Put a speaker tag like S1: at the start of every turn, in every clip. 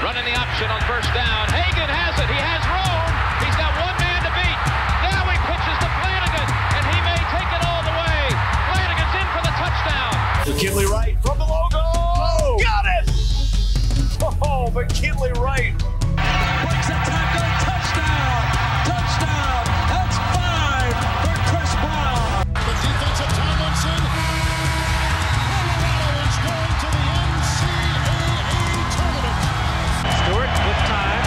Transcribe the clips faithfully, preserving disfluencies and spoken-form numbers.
S1: Running the option on first down. Hagan has it. He has room. He's got one man to beat. Now he pitches to Flanagan, and he may take it all the way. Flanagan's in for the touchdown.
S2: McKinley Wright from the logo. Oh, got it! Oh, McKinley Wright.
S3: Breaks a tackle. Touchdown. Touchdown. That's five for Chris Brown.
S4: The defensive Tomlinson. Colorado is going to the N C double A tournament.
S3: Stewart with time.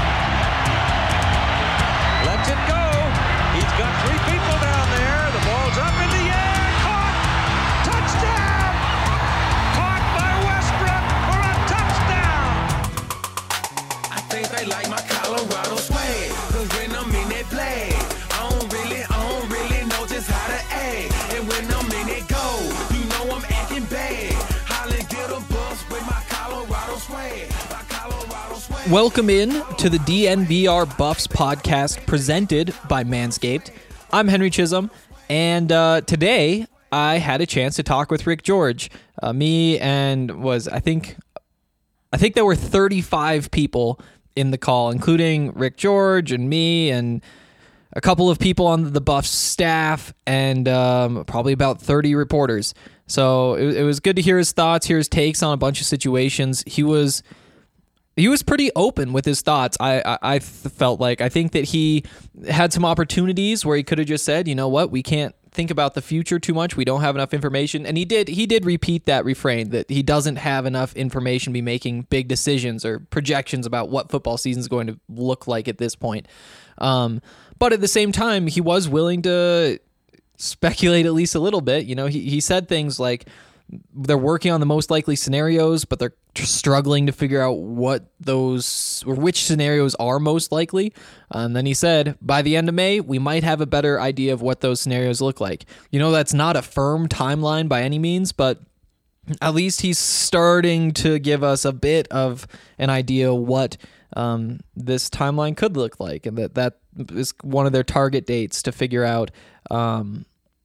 S3: Lets it go. He's got three people down there. The ball's up in the air. Caught. Touchdown. Caught by Westbrook for a touchdown.
S5: I think they like my Colorado swag. Cause when I'm in that play, I don't really, I don't really know just how to act. And when I'm in it go, you know I'm acting bad. Holly get a bus with my Colorado swag. My Colorado swag.
S6: Welcome in to the D N V R Buffs podcast presented by Manscaped. I'm Henry Chisholm, and uh, today I had a chance to talk with Rick George. Uh, me and was, I think, I think there were thirty-five people in the call, including Rick George and me and a couple of people on the Buffs staff and um, probably about thirty reporters. So it, it was good to hear his thoughts, hear his takes on a bunch of situations. He was he was pretty open with his thoughts. I, I, I felt like I think that he had some opportunities where he could have just said, you know what, we can't think about the future too much. We don't have enough information. And he did he did repeat that refrain that he doesn't have enough information to be making big decisions or projections about what football season is going to look like at this point. Um, but at the same time, he was willing to speculate at least a little bit. You know, he, he said things like they're working on the most likely scenarios, but they're struggling to figure out what those or which scenarios are most likely. And then he said, by the end of May, we might have a better idea of what those scenarios look like. You know, that's not a firm timeline by any means, but at least he's starting to give us a bit of an idea what um, this timeline could look like. And that that is one of their target dates to figure out um,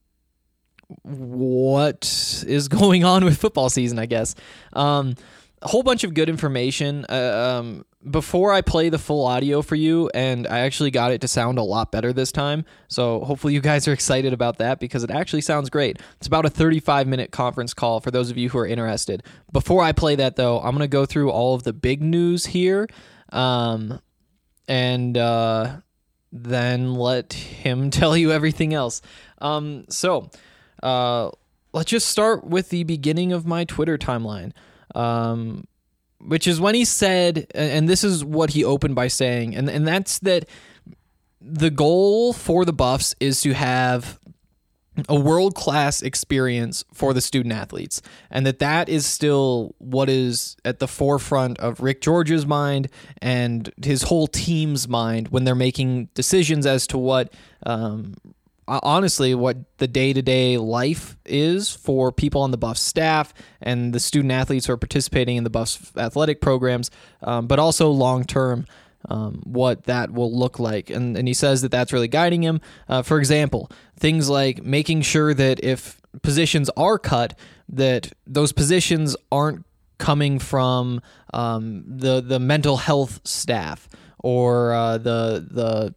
S6: what is going on with football season, I guess. Um, a whole bunch of good information. Uh, um, before I play the full audio for you, and I actually got it to sound a lot better this time, so hopefully you guys are excited about that because it actually sounds great. It's about a thirty-five minute conference call for those of you who are interested. Before I play that, though, I'm going to go through all of the big news here, um, and uh, then let him tell you everything else. Um, so... Uh, let's just start with the beginning of my Twitter timeline, um, which is when he said, and this is what he opened by saying, and, and that's that the goal for the Buffs is to have a world-class experience for the student athletes, and that that is still what is at the forefront of Rick George's mind and his whole team's mind when they're making decisions as to what um, honestly, what the day-to-day life is for people on the Buffs staff and the student athletes who are participating in the Buffs athletic programs, um, but also long-term, um, what that will look like. And, and he says that that's really guiding him. Uh, for example, things like making sure that if positions are cut, that those positions aren't coming from um, the the mental health staff or uh, the the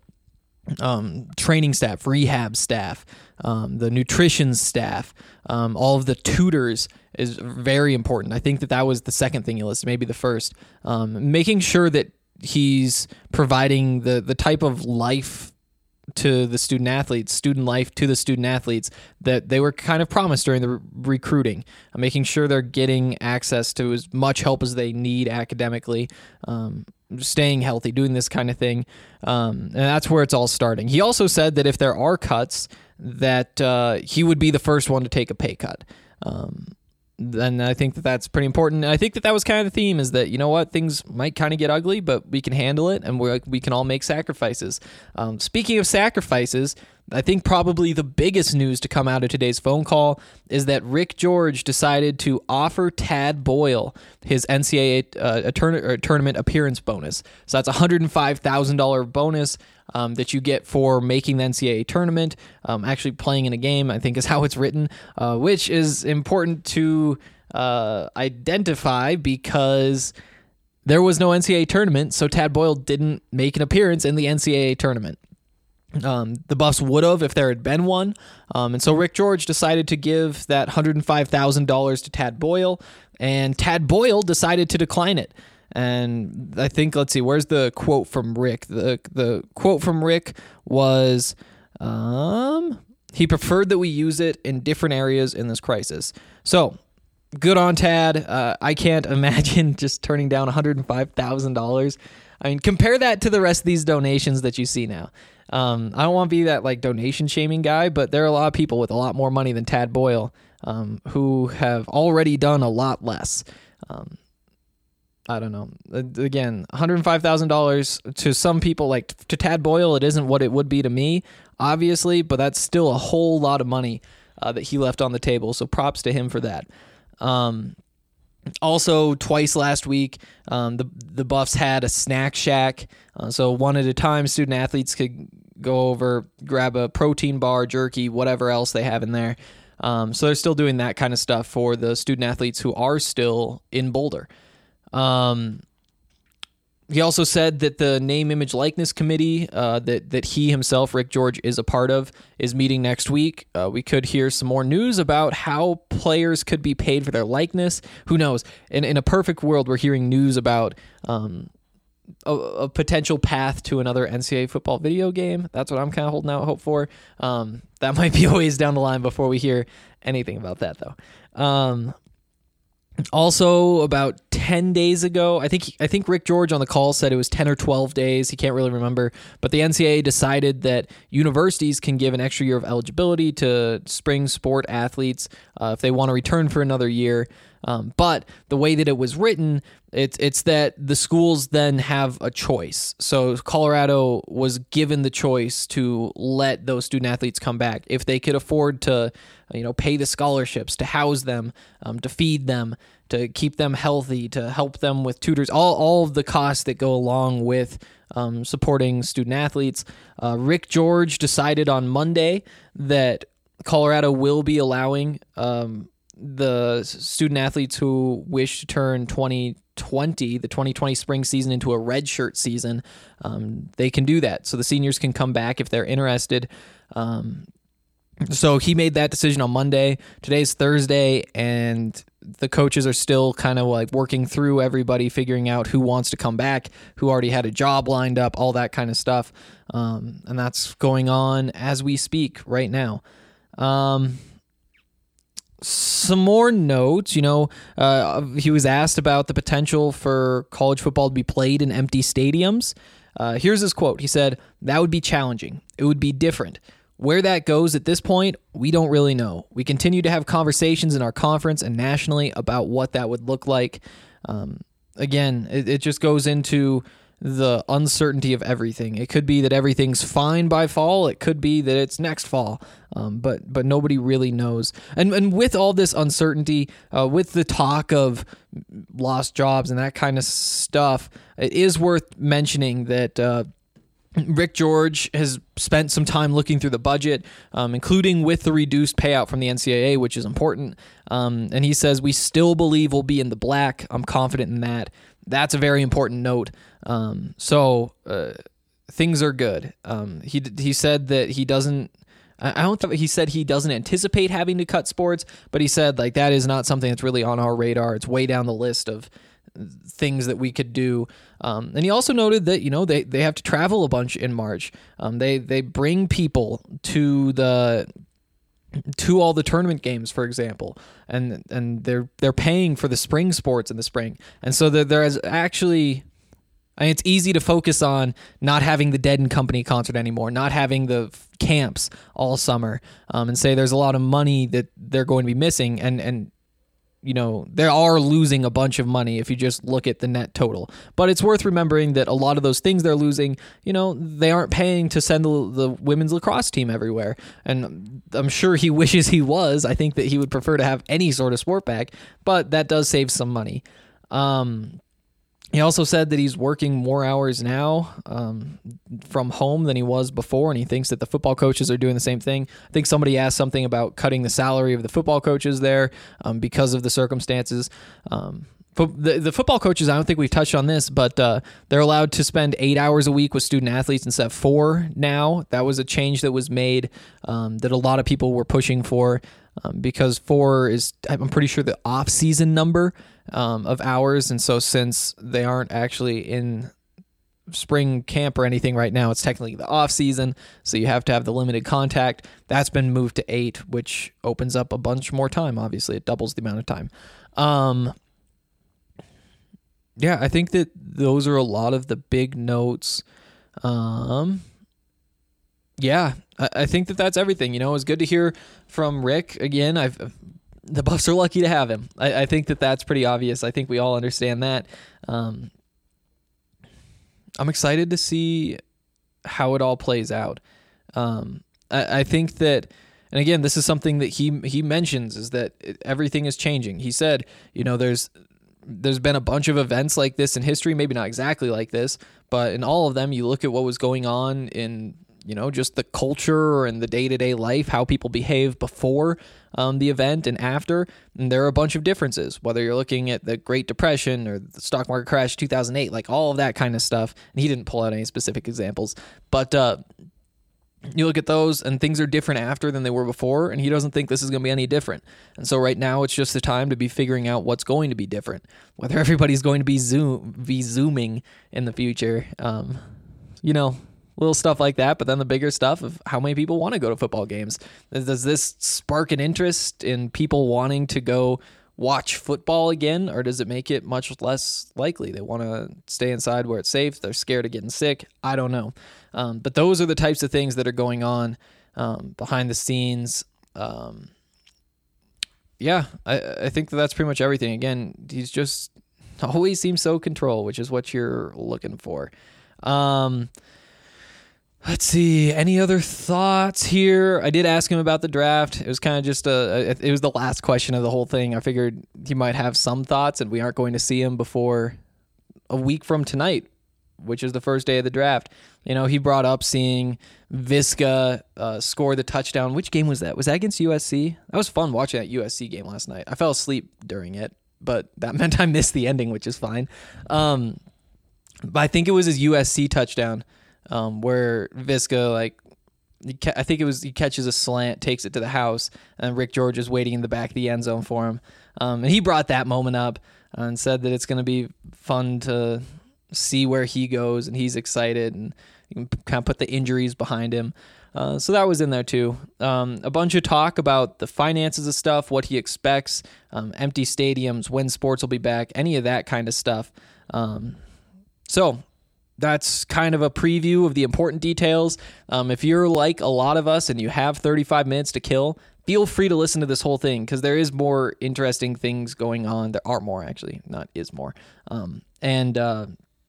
S6: Um, training staff, rehab staff, um, the nutrition staff, um, all of the tutors is very important. I think that that was the second thing he listed, maybe the first. Um, making sure that he's providing the, the type of life to the student athletes, student life to the student athletes that they were kind of promised during the re- recruiting, uh, making sure they're getting access to as much help as they need academically, um, staying healthy, doing this kind of thing. Um, and that's where it's all starting. He also said that if there are cuts, that uh, he would be the first one to take a pay cut. Um, then I think that that's pretty important. And I think that that was kind of the theme, is that, you know what, things might kind of get ugly, but we can handle it, and we we can all make sacrifices. Um, speaking of sacrifices, I think probably the biggest news to come out of today's phone call is that Rick George decided to offer Tad Boyle his N C double A uh, a turn- or tournament appearance bonus. So that's a one hundred five thousand dollars bonus um, that you get for making the N C double A tournament, um, actually playing in a game, I think is how it's written, uh, which is important to uh, identify because there was no N C double A tournament, so Tad Boyle didn't make an appearance in the N C double A tournament. Um, the Buffs would have if there had been one. Um, and so Rick George decided to give that one hundred five thousand dollars to Tad Boyle, and Tad Boyle decided to decline it. And I think, let's see, where's the quote from Rick? The the quote from Rick was, um, he preferred that we use it in different areas in this crisis. So, good on Tad. Uh, I can't imagine just turning down one hundred five thousand dollars. I mean, compare that to the rest of these donations that you see now. Um, I don't want to be that like donation shaming guy, but there are a lot of people with a lot more money than Tad Boyle um, who have already done a lot less. Um, I don't know. Again, one hundred five thousand dollars to some people, like to Tad Boyle, it isn't what it would be to me, obviously, but that's still a whole lot of money uh, that he left on the table. So props to him for that. Um, also, twice last week, um, the the Buffs had a snack shack. Uh, so one at a time, student athletes could go over, grab a protein bar, jerky, whatever else they have in there. Um, so they're still doing that kind of stuff for the student athletes who are still in Boulder. Um, he also said that the name, image, likeness committee uh, that that he himself, Rick George, is a part of, is meeting next week. Uh, we could hear some more news about how players could be paid for their likeness. Who knows? In in a perfect world, we're hearing news about um, a, a potential path to another N C double A football video game. That's what I'm kind of holding out hope for. Um, that might be a ways down the line before we hear anything about that, though. Um, Also, about ten days ago, I think I think Rick George on the call said it was ten or twelve days. He can't really remember. But the N C double A decided that universities can give an extra year of eligibility to spring sport athletes uh, if they want to return for another year. Um, but the way that it was written, it's it's that the schools then have a choice. So Colorado was given the choice to let those student athletes come back if they could afford to, you know, pay the scholarships, to house them, um, to feed them, to keep them healthy, to help them with tutors, all all of the costs that go along with um, supporting student athletes. Uh, Rick George decided on Monday that Colorado will be allowing um, the student athletes who wish to turn twenty twenty, the twenty twenty spring season, into a redshirt season. Um, they can do that. So the seniors can come back if they're interested. Um, so he made that decision on Monday. Today's Thursday, and the coaches are still kind of like working through everybody, figuring out who wants to come back, who already had a job lined up, all that kind of stuff. Um, and that's going on as we speak right now. Um, Some more notes, you know, uh, he was asked about the potential for college football to be played in empty stadiums. Uh, here's his quote. He said, "That would be challenging. It would be different. Where that goes at this point, we don't really know. We continue to have conversations in our conference and nationally about what that would look like." Um, again, it, it just goes into the uncertainty of everything. It could be that everything's fine by fall. It could be that it's next fall. Um, but but nobody really knows. And and with all this uncertainty, uh, with the talk of lost jobs and that kind of stuff, it is worth mentioning that uh, Rick George has spent some time looking through the budget, um, including with the reduced payout from the N C double A, which is important. Um, and he says, "We still believe we'll be in the black. I'm confident in that." That's a very important note. Um, so uh, things are good. Um, he he said that he doesn't. I don't think he said he doesn't anticipate having to cut sports, but he said like that is not something that's really on our radar. It's way down the list of things that we could do. Um, and he also noted that, you know, they, they have to travel a bunch in March. Um, they they bring people to the to all the tournament games, for example, and and they're they're paying for the spring sports in the spring, and so there there is actually. I mean, it's easy to focus on not having the Dead and Company concert anymore, not having the camps all summer, um, and say there's a lot of money that they're going to be missing, and and you know they are losing a bunch of money if you just look at the net total. But it's worth remembering that a lot of those things they're losing, you know, they aren't paying to send the, the women's lacrosse team everywhere, and I'm sure he wishes he was. I think that he would prefer to have any sort of sport back, but that does save some money. Um, He also said that he's working more hours now um, from home than he was before, and he thinks that the football coaches are doing the same thing. I think somebody asked something about cutting the salary of the football coaches there um, because of the circumstances. Um, The, the football coaches, I don't think we've touched on this, but uh, they're allowed to spend eight hours a week with student athletes instead of four now. That was a change that was made um, that a lot of people were pushing for um, because four is, I'm pretty sure, the off-season number um, of hours. And so since they aren't actually in spring camp or anything right now, it's technically the off-season, so you have to have the limited contact. That's been moved to eight, which opens up a bunch more time. Obviously, it doubles the amount of time. Um Yeah, I think that those are a lot of the big notes. Um, yeah, I, I think that that's everything. You know, it was good to hear from Rick again. I've the Buffs are lucky to have him. I, I think that that's pretty obvious. I think we all understand that. Um, I'm excited to see how it all plays out. Um, I, I think that, and again, this is something that he he mentions, is that everything is changing. He said, you know, there's. There's been a bunch of events like this in history, maybe not exactly like this, but in all of them, you look at what was going on in, you know, just the culture and the day-to-day life, how people behave before um, the event and after, and there are a bunch of differences, whether you're looking at the Great Depression or the stock market crash two thousand eight, like all of that kind of stuff, and he didn't pull out any specific examples, but uh, you look at those and things are different after than they were before, and he doesn't think this is going to be any different. And so right now it's just the time to be figuring out what's going to be different, whether everybody's going to be zoom be zooming in the future, um, you know, little stuff like that. But then the bigger stuff of how many people want to go to football games. Does this spark an interest in people wanting to go watch football again, or does it make it much less likely? They want to stay inside where it's safe. They're scared of getting sick. I don't know. Um, but those are the types of things that are going on um, behind the scenes. Um, yeah, I, I think that that's pretty much everything. Again, he's just always seems so control, which is what you're looking for. Um, let's see. Any other thoughts here? I did ask him about the draft. It was kind of just a, it was the last question of the whole thing. I figured he might have some thoughts, and we aren't going to see him before a week from tonight, which is the first day of the draft. You know, he brought up seeing Viska uh, score the touchdown. Which game was that? Was that against U S C? That was fun watching that U S C game last night. I fell asleep during it, but that meant I missed the ending, which is fine. Um, but I think it was his U S C touchdown um, where Viska, like, I think it was he catches a slant, takes it to the house, and Rick George is waiting in the back of the end zone for him. Um, and he brought that moment up and said that it's going to be fun to see where he goes, and he's excited, and you can kind of put the injuries behind him. Uh, so that was in there too. Um, a bunch of talk about the finances of stuff, what he expects, um, empty stadiums, when sports will be back, any of that kind of stuff. Um, so that's kind of a preview of the important details. Um, if you're like a lot of us and you have thirty-five minutes to kill, feel free to listen to this whole thing, because there is more interesting things going on. There are more, actually, not is more. Um, and, uh,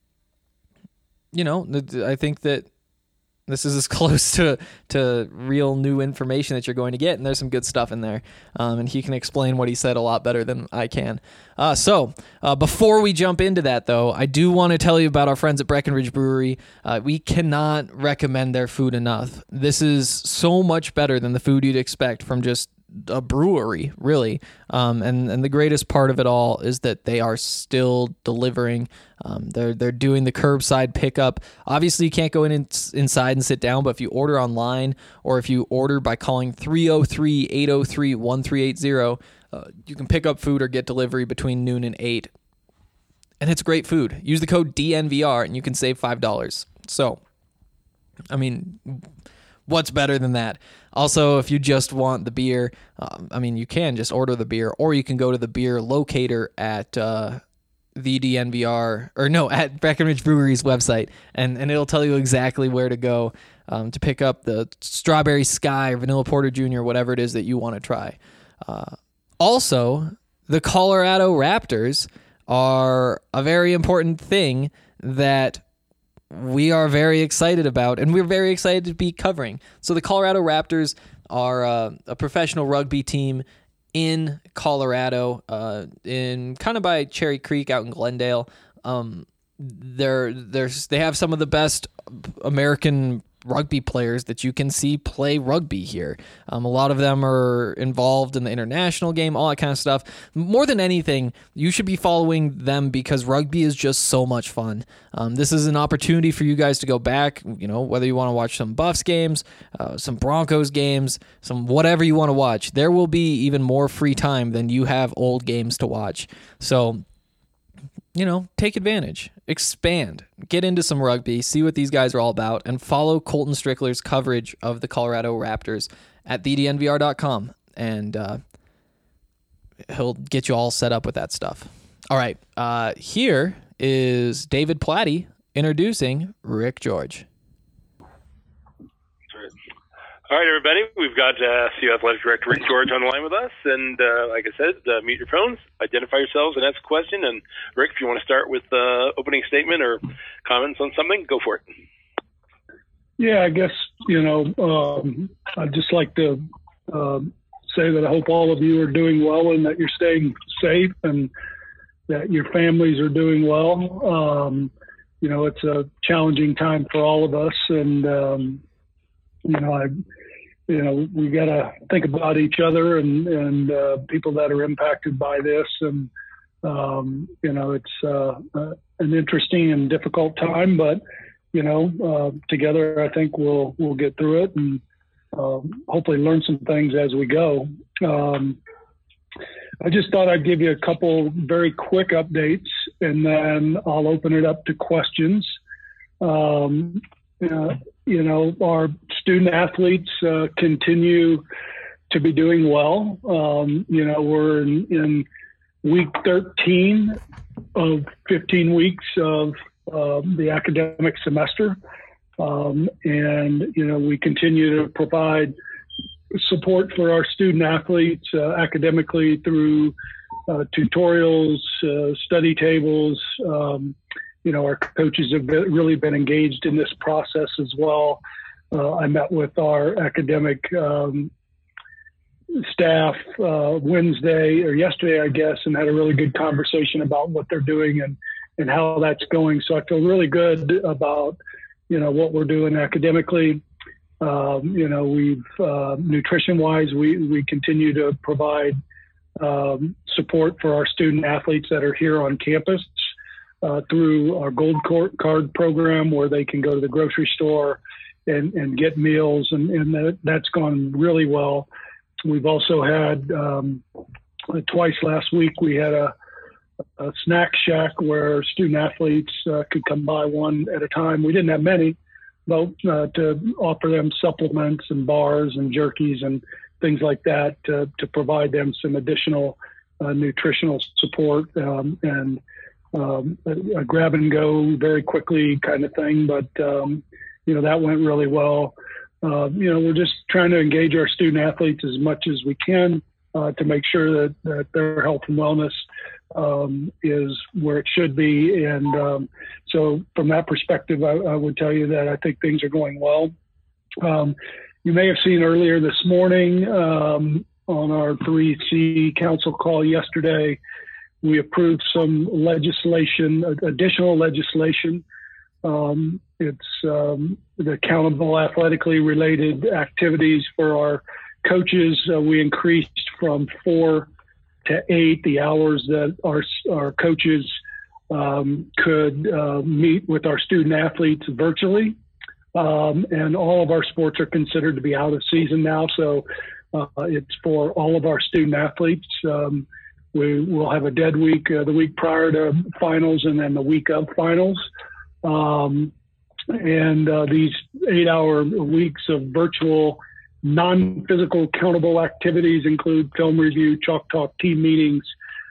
S6: you know, I think that this is as close to, to real new information that you're going to get, and there's some good stuff in there. Um, and he can explain what he said a lot better than I can. Uh, so uh, before we jump into that, though, I do want to tell you about our friends at Breckenridge Brewery. Uh, we cannot recommend their food enough. This is so much better than the food you'd expect from just a brewery, really. Um, and, and the greatest part of it all is that they are still delivering. Um, they're they're doing the curbside pickup. Obviously, you can't go in, in inside and sit down, but if you order online, or if you order by calling three oh three, eight oh three, one three eight zero, uh, you can pick up food or get delivery between noon and eight. And it's great food. Use the code D N V R and you can save five dollars. So, I mean, what's better than that? Also, if you just want the beer, um, I mean, you can just order the beer, or you can go to the beer locator at uh, the D N V R, or no, at Breckenridge Brewery's website, and, and it'll tell you exactly where to go um, to pick up the Strawberry Sky or Vanilla Porter Junior, whatever it is that you want to try. Uh, also, the Colorado Raptors are a very important thing that we are very excited about, and we're very excited to be covering. So the Colorado Raptors are uh, a professional rugby team in Colorado, uh, in kind of by Cherry Creek out in Glendale. Um, they're, they're, they have some of the best American rugby players that you can see play rugby here. Um, a lot of them are involved in the international game, all that kind of stuff. More than anything, you should be following them because rugby is just so much fun. Um, this is an opportunity for you guys to go back, you know, whether you want to watch some Buffs games, uh, some Broncos games, some whatever you want to watch. There will be even more free time than you have old games to watch. So, you know, take advantage, expand, get into some rugby, see what these guys are all about, and follow Colton Strickler's coverage of the Colorado Raptors at the d n v r dot com, and uh, he'll get you all set up with that stuff. All right, uh, here is David Platty introducing Rick George.
S7: All right, everybody, we've got uh, C U Athletic Director Rick George on the line with us. And uh, like I said, uh, mute your phones, identify yourselves, and ask a question. And Rick, if you want to start with uh, opening statement or comments on something, go for it.
S8: Yeah, I guess, you know, um, I'd just like to uh, say that I hope all of you are doing well and that you're staying safe and that your families are doing well. Um, you know, it's a challenging time for all of us. And, um, you know, I, you know, we got to think about each other and, and uh, people that are impacted by this. And, um, you know, it's uh, uh, an interesting and difficult time, but, you know, uh, together, I think we'll, we'll get through it and uh, hopefully learn some things as we go. Um, I just thought I'd give you a couple very quick updates and then I'll open it up to questions. Um, uh, you know, our student athletes uh, continue to be doing well. Um, you know, we're in, in week thirteen of fifteen weeks of uh, the academic semester. Um, and, you know, we continue to provide support for our student athletes uh, academically through uh, tutorials, uh, study tables. Um, you know, our coaches have been, really been engaged in this process as well. Uh, I met with our academic um, staff uh, Wednesday or yesterday, I guess, and had a really good conversation about what they're doing and, and how that's going. So I feel really good about, you know, what we're doing academically. Um, you know, we've uh, nutrition-wise, we, we continue to provide um, support for our student athletes that are here on campus uh, through our Gold Card program, where they can go to the grocery store and, and get meals, and, and that, that's gone really well. We've also had um, twice last week we had a, a snack shack where student athletes uh, could come by one at a time. We didn't have many. Well, uh, to offer them supplements and bars and jerkies and things like that to, to provide them some additional uh, nutritional support um, and um, a, a grab and go very quickly kind of thing. But, um, you know, that went really well. Uh, you know, we're just trying to engage our student athletes as much as we can uh, to make sure that, that their health and wellness um, is where it should be. And um, so from that perspective, I, I would tell you that I think things are going well. Um, you may have seen earlier this morning um, on our three C council call yesterday, we approved some legislation, additional legislation. Um, it's um, the accountable athletically related activities for our coaches. Uh, we increased from four to eight the hours that our our coaches um, could uh, meet with our student athletes virtually, um, and all of our sports are considered to be out of season now. So uh, it's for all of our student athletes. Um, we will have a dead week uh, the week prior to finals, and then the week of finals. Um, and uh, these eight-hour weeks of virtual non-physical countable activities include film review, chalk talk, team meetings,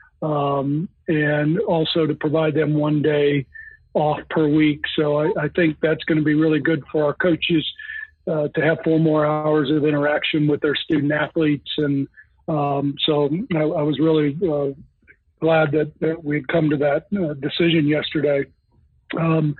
S8: um, and also to provide them one day off per week. So I, I think that's going to be really good for our coaches uh, to have four more hours of interaction with their student athletes. And um, so I, I was really uh, glad that, that we'd come to that uh, decision yesterday. Um,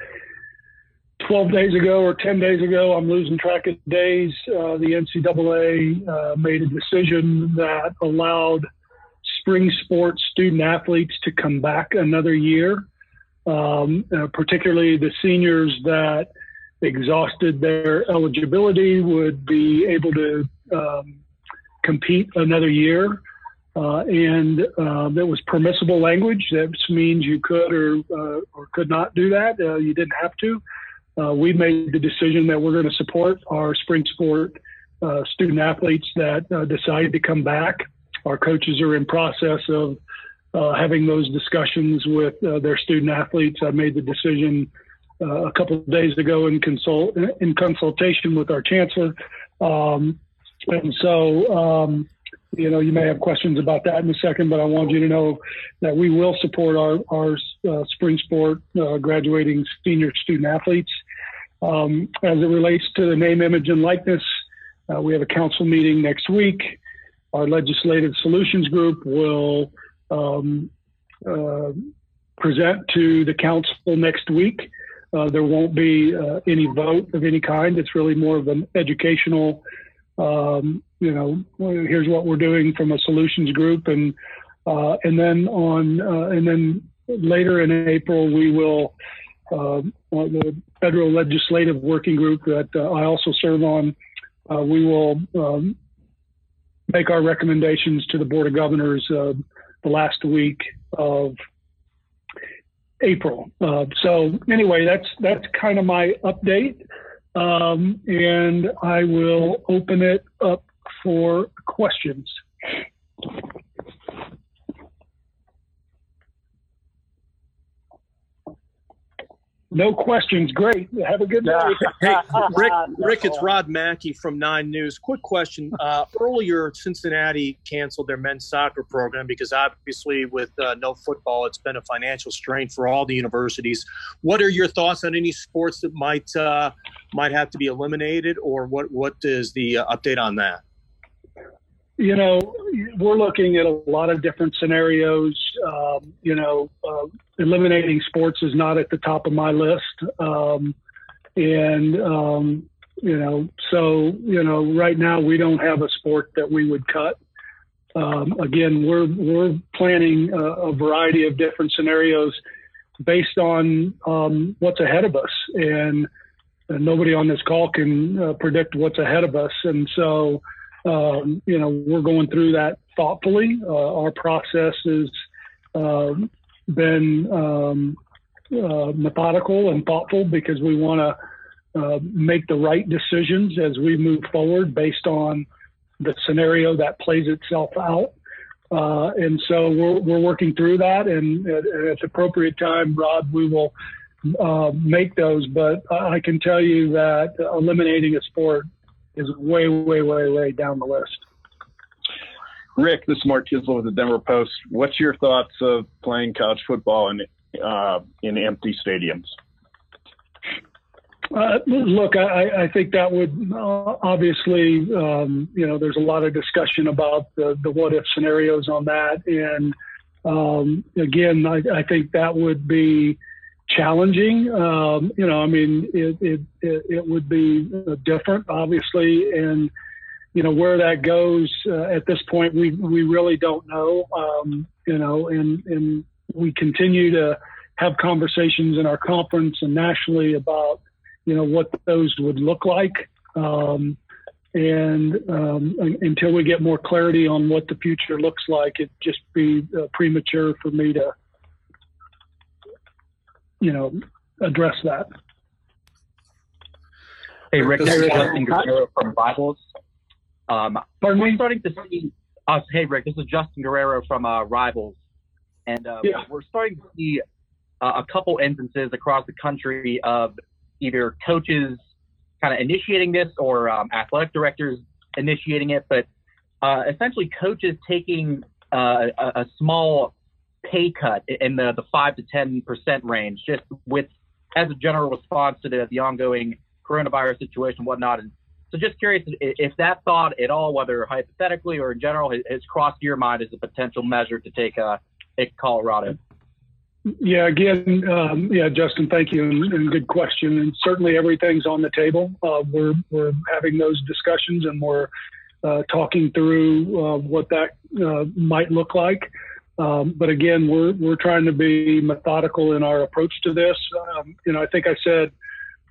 S8: twelve days ago or ten days ago, I'm losing track of days, uh, the N C double A uh, made a decision that allowed spring sports student athletes to come back another year, um, uh, particularly the seniors that exhausted their eligibility would be able to um, compete another year. Uh, and uh, there was permissible language. That means you could or uh, or could not do that. Uh, you didn't have to. Uh, we made the decision that we're going to support our spring sport uh, student athletes that uh, decided to come back. Our coaches are in process of uh, having those discussions with uh, their student athletes. I made the decision uh, a couple of days ago in consult in consultation with our chancellor. Um, and so, um, you know, you may have questions about that in a second, but I want you to know that we will support our, our uh, spring sport uh, graduating senior student athletes. Um, as it relates to the name, image, and likeness, uh, we have a council meeting next week. Our legislative solutions group will um, uh, present to the council next week. Uh, there won't be uh, any vote of any kind. It's really more of an educational, um, you know, here's what we're doing from a solutions group, and uh, and then on uh, and then later in April we will uh, on the federal legislative working group that uh, I also serve on. Uh, we will um, make our recommendations to the Board of Governors uh, the last week of April. Uh, so anyway, that's that's kind of my update, um, and I will open it up for questions. No questions. Great. Have a good day.
S9: Hey, Rick, Rick, it's Rod Mackey from Nine News. Quick question. Uh, earlier, Cincinnati canceled their men's soccer program because obviously with uh, no football, it's been a financial strain for all the universities. What are your thoughts on any sports that might uh, might have to be eliminated, or what, what is the uh, update on that?
S8: You know, we're looking at a lot of different scenarios. Um, you know, uh, eliminating sports is not at the top of my list. Um, and, um, you know, so, you know, right now we don't have a sport that we would cut. Um, again, we're, we're planning a, a variety of different scenarios based on um, what's ahead of us. And, and nobody on this call can uh, predict what's ahead of us. And so, Um, you know, we're going through that thoughtfully. Uh, our process has uh, been um, uh, methodical and thoughtful because we want to uh, make the right decisions as we move forward based on the scenario that plays itself out. Uh, and so we're, we're working through that, and at, at the appropriate time, Rod, we will uh, make those. But I can tell you that eliminating a sport is way, way, way, way down the list.
S10: Rick, this is Mark Kislow with the Denver Post. What's your thoughts of playing college football in uh, in empty stadiums?
S8: Uh, look, I, I think that would uh, obviously, um, you know, there's a lot of discussion about the, the what if scenarios on that. And um, again, I, I think that would be challenging. Um, you know, I mean, it, it, it, it would be different, obviously. And, you know, where that goes uh, at this point, we, we really don't know, um, you know, and, and we continue to have conversations in our conference and nationally about, you know, what those would look like. Um, and um, until we get more clarity on what the future looks like, it'd just be uh, premature for me to, you know, address that.
S11: Hey, Rick, this is Justin Guerrero from Rivals. Um,
S8: Pardon
S11: we're
S8: me?
S11: starting to see us. Hey, Rick, this is Justin Guerrero from uh, Rivals. And uh,
S8: yeah.
S11: we're starting to see uh, a couple instances across the country of either coaches kind of initiating this or um, athletic directors initiating it, but uh, essentially coaches taking uh, a, a small pay cut in the, the five to ten percent range, just with as a general response to the, the ongoing coronavirus situation and whatnot. And so just curious if that thought at all, whether hypothetically or in general, has, has crossed your mind as a potential measure to take uh, take Colorado.
S8: Yeah, again, um, yeah, Justin, thank you, and, and good question. And certainly everything's on the table. Uh, we're we're having those discussions, and we're uh, talking through uh, what that uh, might look like. Um, but again, we're we're trying to be methodical in our approach to this. Um, you know, I think I said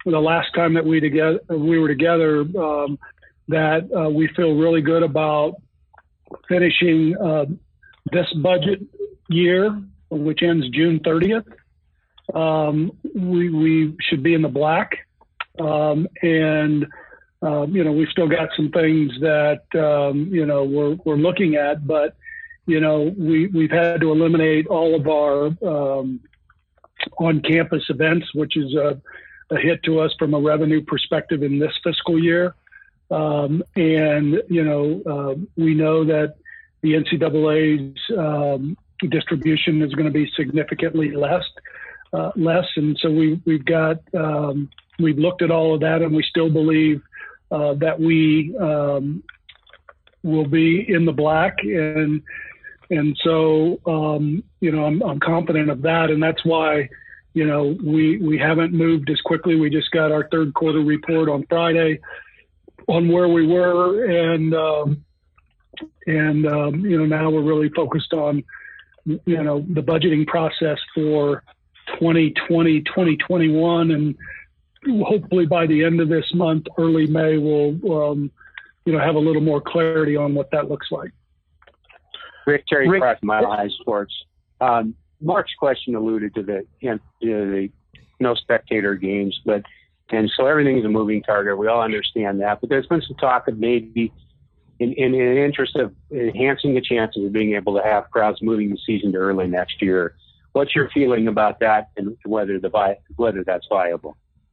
S8: the last time that we together we were together um, that uh, we feel really good about finishing uh, this budget year, which ends June thirtieth. Um, we, we should be in the black. Um, and, um, you know, we've still got some things that, um, you know, we're, we're looking at, but, you know, we, we've had to eliminate all of our um, on-campus events, which is a, a hit to us from a revenue perspective in this fiscal year. Um, and, you know, uh, we know that the N C double A's um, distribution is going to be significantly less, uh, less. And so we, we've got, um, we've looked at all of that, and we still believe uh, that we um, will be in the black. And, and so, um, you know, I'm, I'm confident of that. And that's why, you know, we, we haven't moved as quickly. We just got our third quarter report on Friday on where we were. And, um, and, um, you know, now we're really focused on, you know, the budgeting process for twenty twenty, twenty twenty-one. And hopefully by the end of this month, early May, we'll, um, you know, have a little more clarity on what that looks like.
S12: Rick, Terry
S8: Rick,
S12: Pratt, Mile High Sports. Um, Mark's question alluded to the, you know, the no spectator games, but, and so everything is a moving target. We all understand that, but there's been some talk of maybe in, in, in the interest of enhancing the chances of being able to have crowds moving the season to early next year. What's your feeling about that, and whether the whether that's viable?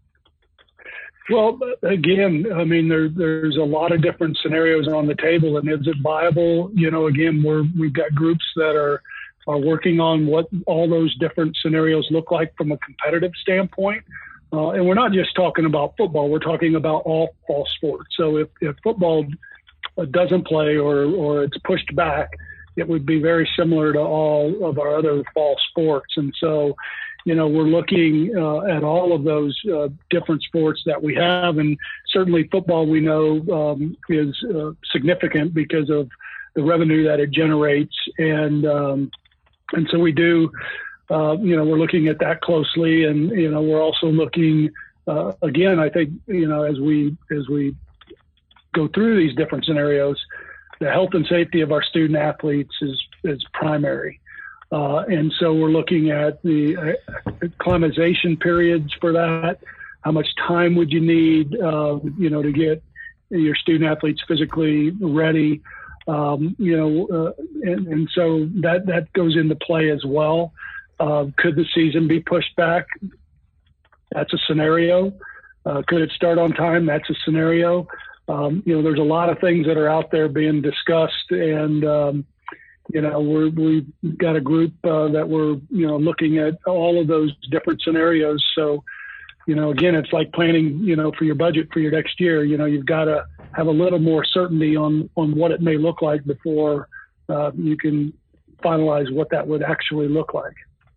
S8: Well, again, I mean, there, there's a lot of different scenarios on the table, and is it viable? You know, again, we're we've got groups that are are working on what all those different scenarios look like from a competitive standpoint. Uh, and we're not just talking about football, we're talking about all fall sports. So if, if football doesn't play or, or it's pushed back, it would be very similar to all of our other fall sports. And so, you know, we're looking uh, at all of those uh, different sports that we have. And certainly football, we know, um, is uh, significant because of the revenue that it generates. And, um, and so we do, uh, you know, we're looking at that closely. And, you know, we're also looking, uh, again, I think, you know, as we, as we go through these different scenarios, the health and safety of our student athletes is, is primary. Uh, and so we're looking at the uh, acclimatization periods for that. How much time would you need, uh, you know, to get your student athletes physically ready? Um, you know, uh, and, and so that, that goes into play as well. Uh, could the season be pushed back? That's a scenario. Uh, could it start on time? That's a scenario. Um, you know, there's a lot of things that are out there being discussed, and, um, you know, we're, we've got a group uh, that we're, you know, looking at all of those different scenarios. So, you know, again, it's like planning, you know, for your budget for your next year. You know, you've got to have a little more certainty on, on what it may look like before uh, you can finalize what that would actually look like.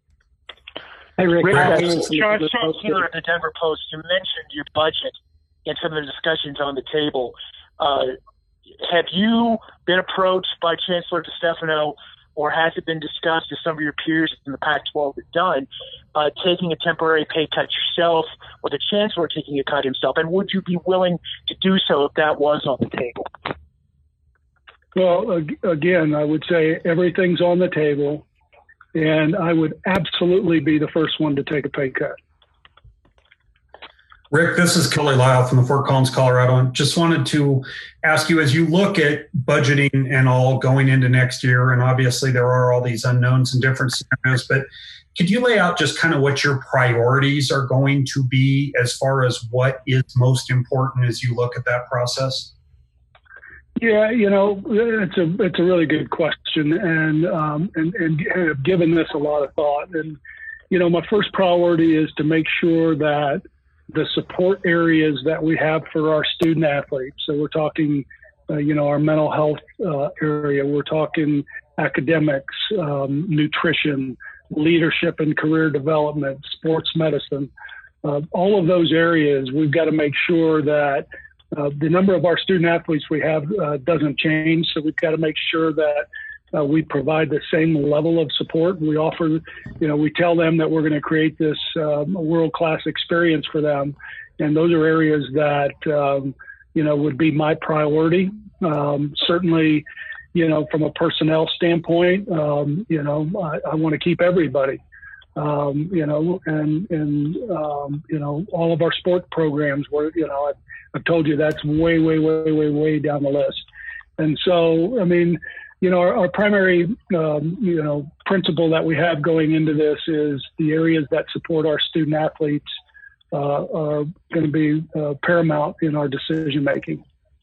S13: Hey, Rick.
S14: Rick
S13: uh,
S14: John Chancellor at the Denver Post, you mentioned your budget and some of the discussions on the table. Uh, have you been approached by Chancellor DeStefano, or has it been discussed as some of your peers in the Pac twelve have done, uh, taking a temporary pay cut yourself, or the Chancellor taking a cut himself? And would you be willing to do so if that was on the table?
S8: Well, again, I would say everything's on the table, and I would absolutely be the first one to take a pay cut.
S15: Rick, this is Kelly Lyle from the Fort Collins, Colorado. Just wanted to ask you, as you look at budgeting and all going into next year, and obviously there are all these unknowns and different scenarios, but could you lay out just kind of what your priorities are going to be as far as what is most important as you look at that process?
S8: Yeah, you know, it's a it's a really good question, and um, and and have given this a lot of thought. And you know, my first priority is to make sure that the support areas that we have for our student athletes. So we're talking, uh, you know, our mental health uh, area. We're talking academics, um, nutrition, leadership and career development, sports medicine. Uh, all of those areas, we've got to make sure that uh, the number of our student athletes we have uh, doesn't change. So we've got to make sure that uh, we provide the same level of support. We offer, you know, we tell them that we're going to create this um, world-class experience for them. And those are areas that, um, you know, would be my priority. Um, certainly, you know, from a personnel standpoint, um, you know, I, I want to keep everybody. Um, you know, and, and um, you know, all of our sport programs were, you know, I've, I've told you that's way, way, way, way, way down the list. And so, I mean, you know, our, our primary, um, you know, principle that we have going into this is the areas that support our student athletes uh, are going to be uh, paramount in our decision making.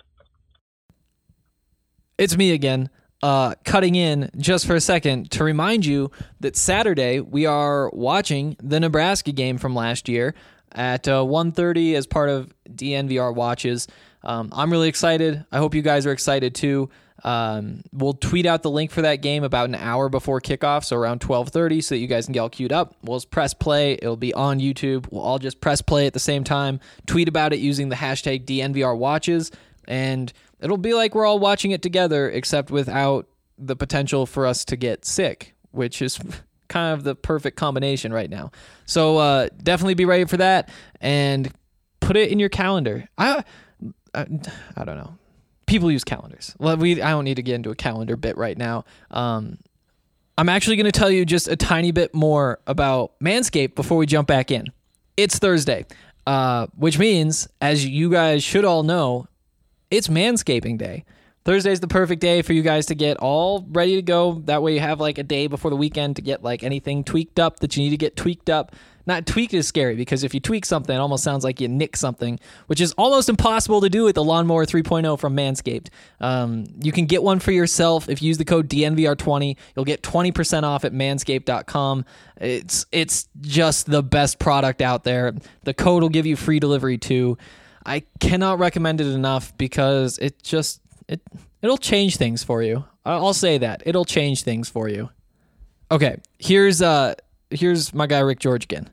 S6: It's me again. Uh, cutting in just for a second to remind you that Saturday we are watching the Nebraska game from last year at uh, one thirty as part of D N V R Watches. Um, I'm really excited. I hope you guys are excited too. Um, we'll tweet out the link for that game about an hour before kickoff, so around twelve thirty, so that you guys can get all queued up. We'll just press play. It'll be on YouTube. We'll all just press play at the same time, tweet about it using the hashtag D N V R Watches, and it'll be like we're all watching it together, except without the potential for us to get sick, which is kind of the perfect combination right now. So uh, definitely be ready for that and put it in your calendar. I, I, I don't know. People use calendars. Well, we I don't need to get into a calendar bit right now. Um, I'm actually going to tell you just a tiny bit more about Manscaped before we jump back in. It's Thursday, uh, which means, as you guys should all know, it's Manscaping Day. Thursday's the perfect day for you guys to get all ready to go. That way you have like a day before the weekend to get like anything tweaked up that you need to get tweaked up. Not tweaked is scary, because if you tweak something, it almost sounds like you nick something, which is almost impossible to do with the Lawnmower three point oh from Manscaped. Um, you can get one for yourself. If you use the code D N V R twenty, you'll get twenty percent off at manscaped dot com. It's, it's just the best product out there. The code will give you free delivery too. I cannot recommend it enough because it just, it, it'll change things for you. I'll say that. It'll change things for you. Okay, here's uh, here's my guy Rick George again.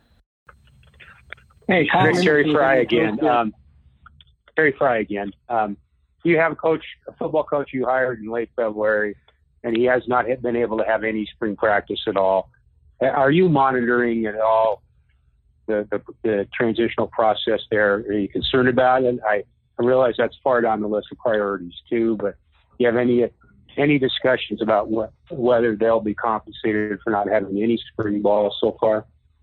S12: Hey, Rick, Terry Fry again. Um, Terry Fry again. Um, you have a coach, a football coach you hired in late February, and he has not been able to have any spring practice at all. Are you monitoring at all the, the, the transitional process there? Are you concerned about it? I, I realize that's far down the list of priorities too, but do you have any any discussions about what, whether they'll be compensated for not having any spring ball so far?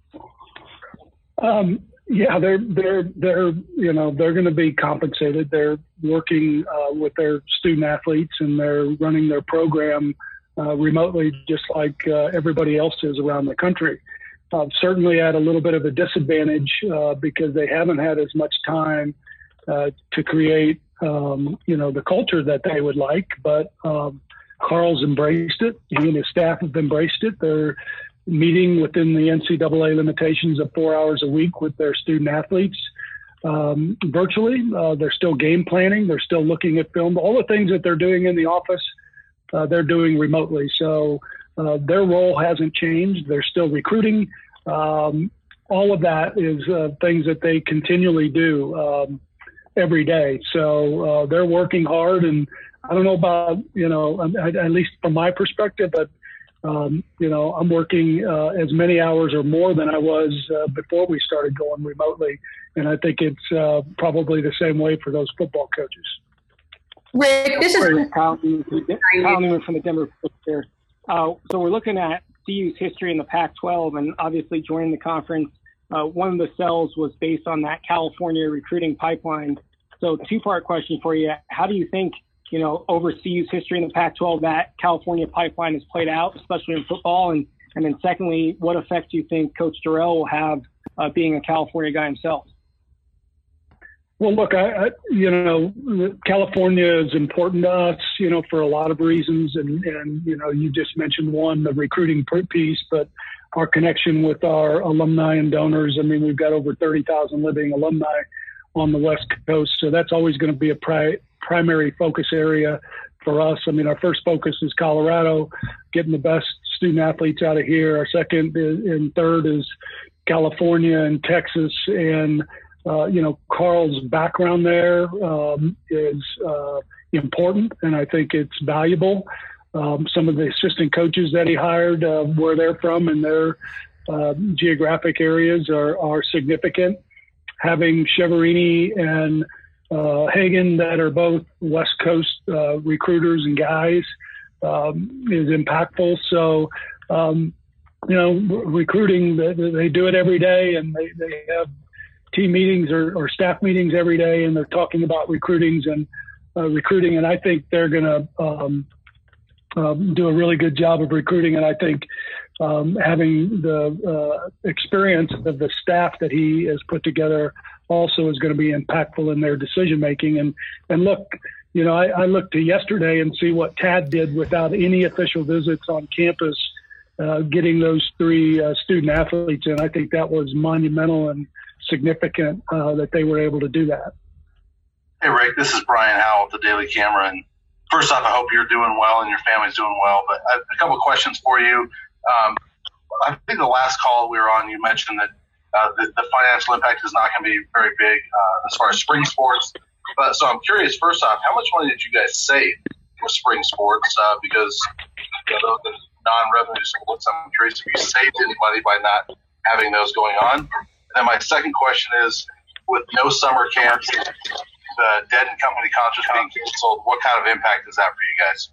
S8: Um, yeah, they're they're they're you know they're going to be compensated. They're working uh, with their student athletes, and they're running their program uh, remotely, just like uh, everybody else is around the country. Uh, certainly at a little bit of a disadvantage uh, because they haven't had as much time uh, to create, um, you know, the culture that they would like. But um, Carl's embraced it. He and his staff have embraced it. They're meeting within the N C double A limitations of four hours a week with their student athletes um, virtually. Uh, they're still game planning. They're still looking at film. All the things that they're doing in the office, uh, they're doing remotely. So uh, their role hasn't changed. They're still recruiting. Um, all of that is uh, things that they continually do um, every day. So uh, they're working hard. And I don't know about, you know, at, at least from my perspective, but Um, you know, I'm working uh, as many hours or more than I was uh, before we started going remotely. And I think it's uh, probably the same way for those football coaches.
S16: Rick, this is
S13: Kyle Newman from the Denver Post. Uh, so we're looking at C U's history in the Pac twelve, and obviously joining the conference. Uh, one of the sells was based on that California recruiting pipeline. So two-part question for you. How do you think, you know, over C U's history in the Pac twelve, that California pipeline has played out, especially in football? And, and then secondly, what effect do you think Coach Dorrell will have uh, being a California guy himself?
S8: Well, look, I, I, you know, California is important to us, you know, for a lot of reasons. And, and, you know, you just mentioned one, the recruiting piece, but our connection with our alumni and donors. I mean, we've got over thirty thousand living alumni on the West Coast. So that's always going to be a pri- primary focus area for us. I mean, our first focus is Colorado, getting the best student athletes out of here. Our second is, and third is California and Texas. And, uh, you know, Carl's background there um, is uh, important, and I think it's valuable. Um, some of the assistant coaches that he hired, uh, where they're from and their uh, geographic areas are, are significant. Having Chiaverini and uh, Hagan, that are both West Coast uh, recruiters and guys, um, is impactful. So, um, you know, recruiting, they, they do it every day, and they, they have team meetings or, or staff meetings every day, and they're talking about recruitings and uh, recruiting. And I think they're going to um, um, do a really good job of recruiting. And I think um, having the uh, experience of the staff that he has put together also is going to be impactful in their decision making. And and look, you know, I, I looked to yesterday and see what Tad did without any official visits on campus, uh, getting those three uh, student athletes in. I think that was monumental and significant uh, that they were able to do that.
S17: Hey, Rick, this is Brian Howell with the Daily Camera. And first off, I hope you're doing well and your family's doing well. But I have a couple of questions for you. Um, I think the last call we were on, you mentioned that uh, the, the financial impact is not going to be very big uh, as far as spring sports. But so I'm curious, first off, how much money did you guys save for spring sports? Uh, because you know, the non-revenue sports, I'm curious if you saved any money by not having those going on. And then my second question is, with no summer camps, the Dead and Company concerts being canceled, what kind of impact is that for you guys?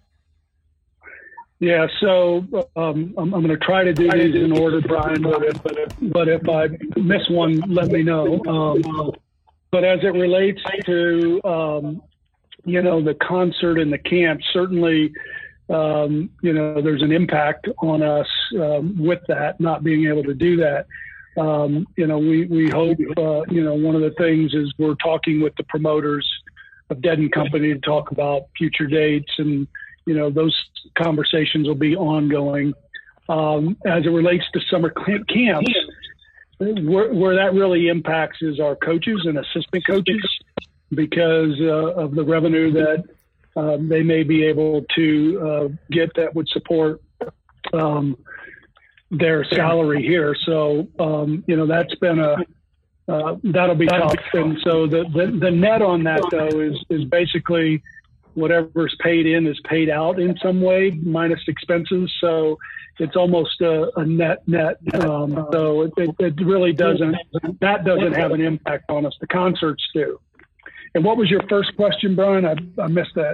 S8: Yeah, so um, I'm, I'm going to try to do these in order, Brian, but if, but if I miss one, let me know. Um, but as it relates to, um, you know, the concert and the camp, certainly, um, you know, there's an impact on us um, with that, not being able to do that. Um, you know, we, we hope, uh, you know, one of the things is we're talking with the promoters of Dead and Company to talk about future dates, and, you know, those conversations will be ongoing. Um, as it relates to summer camps, where, where that really impacts is our coaches and assistant coaches, because uh, of the revenue that uh, they may be able to uh, get that would support um, their salary here. So, um, you know, that's been a, uh, that'll be tough. And so the, the, the net on that, though, is, is basically whatever's paid in is paid out in some way, minus expenses. So it's almost a, a net net. Um, so it, it, it really doesn't, that doesn't have an impact on us. The concerts do. And what was your first question, Brian? I, I missed that.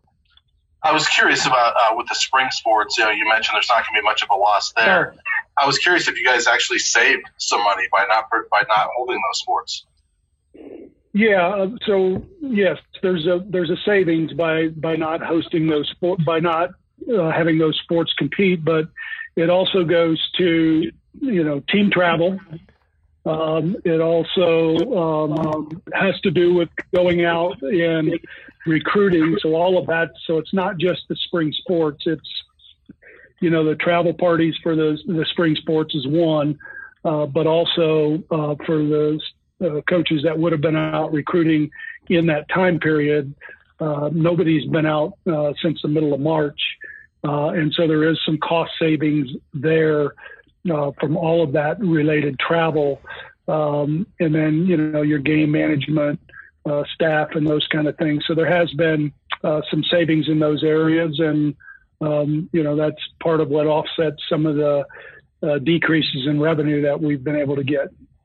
S17: I was curious about uh, with the spring sports. You know, you mentioned there's not going to be much of a loss there. Sure. I was curious if you guys actually saved some money by not by not holding those sports.
S8: Yeah. Uh, so yes, there's a there's a savings by by not hosting those sport by not uh, having those sports compete, but it also goes to, you know, team travel. Um, it also um, has to do with going out and recruiting. So all of that. So it's not just the spring sports. It's, you know, the travel parties for the, the spring sports is one, uh, but also uh, for the uh, coaches that would have been out recruiting in that time period. Uh, nobody's been out uh, since the middle of March. Uh, and so there is some cost savings there uh, from all of that related travel. Um, and then, you know, your game management uh, staff and those kind of things. So there has been uh, some savings in those areas. And, um, you know, that's part of what offsets some of the uh, decreases in revenue that we've been able to get.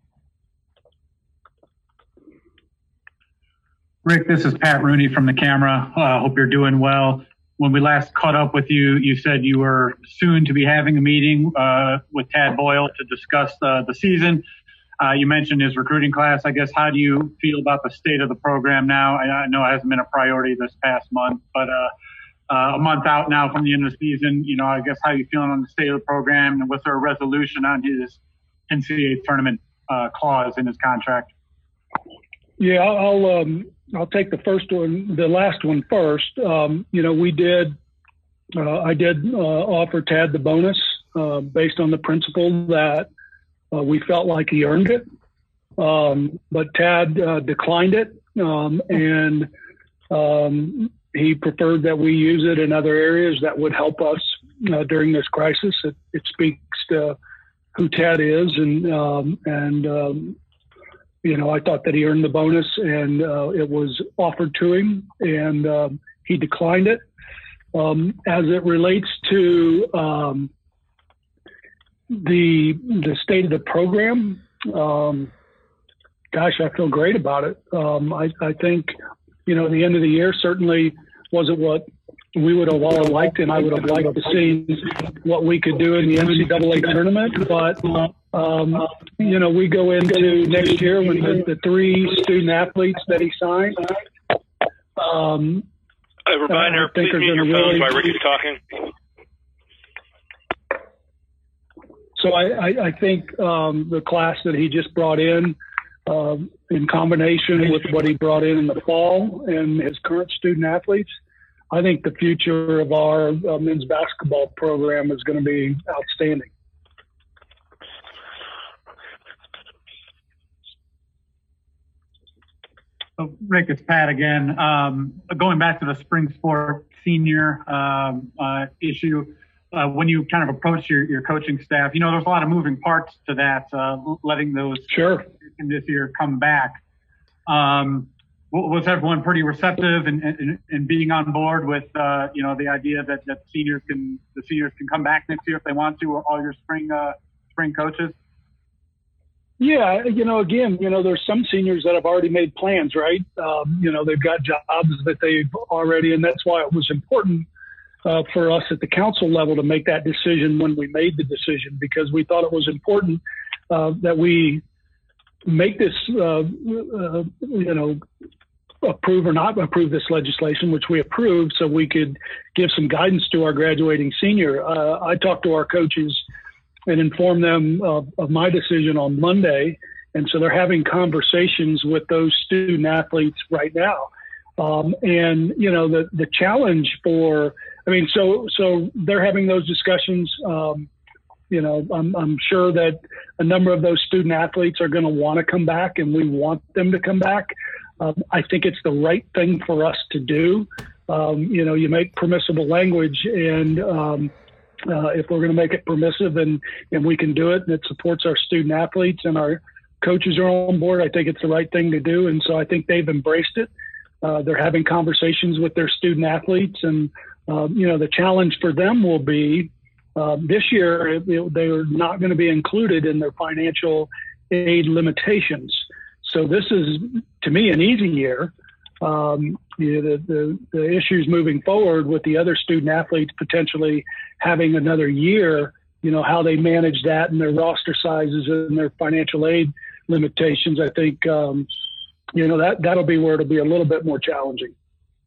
S18: Rick, this is Pat Rooney from the Camera. I uh, hope you're doing well. When we last caught up with you, you said you were soon to be having a meeting uh, with Tad Boyle to discuss uh, the season. Uh, you mentioned his recruiting class. I guess, how do you feel about the state of the program now? I, I know it hasn't been a priority this past month, but uh, uh, a month out now from the end of the season, you know, I guess, how are you feeling on the state of the program, and was there a resolution on his N C double A tournament uh, clause in his contract?
S8: Yeah, I'll um, I'll take the first one, the last one first. Um, you know, we did, uh, I did uh, offer Tad the bonus uh, based on the principle that uh, we felt like he earned it. Um, but Tad uh, declined it, um, and um, he preferred that we use it in other areas that would help us uh, during this crisis. It, it speaks to who Tad is, and um, and um, you know, I thought that he earned the bonus, and uh, it was offered to him, and um, he declined it. Um, as it relates to um, the the state of the program, um, gosh, I feel great about it. Um, I, I think, you know, the end of the year certainly wasn't what we would have all liked, and I would have liked to see what we could do in the N C double A tournament. But, um, you know, we go into next year with the, the three student athletes that he signed. Um,
S7: A reminder, please mute your phones while Rick is talking.
S8: So I, I, I think um, the class that he just brought in, um, in combination with what he brought in in the fall and his current student athletes, I think the future of our uh, men's basketball program is going to be outstanding.
S18: So Rick, it's Pat again. Um, going back to the spring sport senior um, uh, issue, uh, when you kind of approach your, your coaching staff, you know, there's a lot of moving parts to that, uh, letting those
S8: sure
S18: in this year come back. Um, was everyone pretty receptive and, and, and being on board with, uh, you know, the idea that, that seniors can, the seniors can come back next year if they want to, all your spring, uh, spring coaches?
S8: Yeah, you know, again, you know, there's some seniors that have already made plans, right? Um, you know, they've got jobs that they've already, and that's why it was important uh, for us at the council level to make that decision when we made the decision, because we thought it was important uh, that we make this, uh, uh, you know, approve or not approve this legislation, which we approved, so we could give some guidance to our graduating senior. Uh, I talked to our coaches and inform them of, of my decision on Monday. And so they're having conversations with those student athletes right now. Um, and, you know, the, the challenge for, I mean, so, so they're having those discussions. Um, you know, I'm, I'm sure that a number of those student athletes are going to want to come back, and we want them to come back. Um, I think it's the right thing for us to do. Um, you know, you make permissible language, and, um, Uh, if we're going to make it permissive and, and we can do it and it supports our student athletes and our coaches are on board, I think it's the right thing to do. And so I think they've embraced it. Uh, they're having conversations with their student athletes. And, uh, you know, the challenge for them will be uh, this year, it, it, they're not going to be included in their financial aid limitations. So this is, to me, an easy year. Um, you know, the, the, the issues moving forward with the other student athletes potentially having another year, you know, how they manage that and their roster sizes and their financial aid limitations, I think, um, you know, that, that'll be where it'll be a little bit more challenging.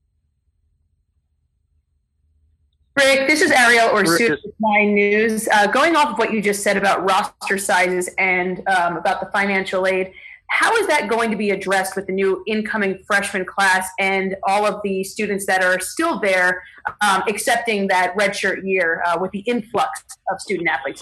S16: Rick, this is Ariel Orsuit with Nine News. Uh, going off of what you just said about roster sizes and um, about the financial aid, how is that going to be addressed with the new incoming freshman class and all of the students that are still there, um, accepting that redshirt year uh, with the influx of student athletes?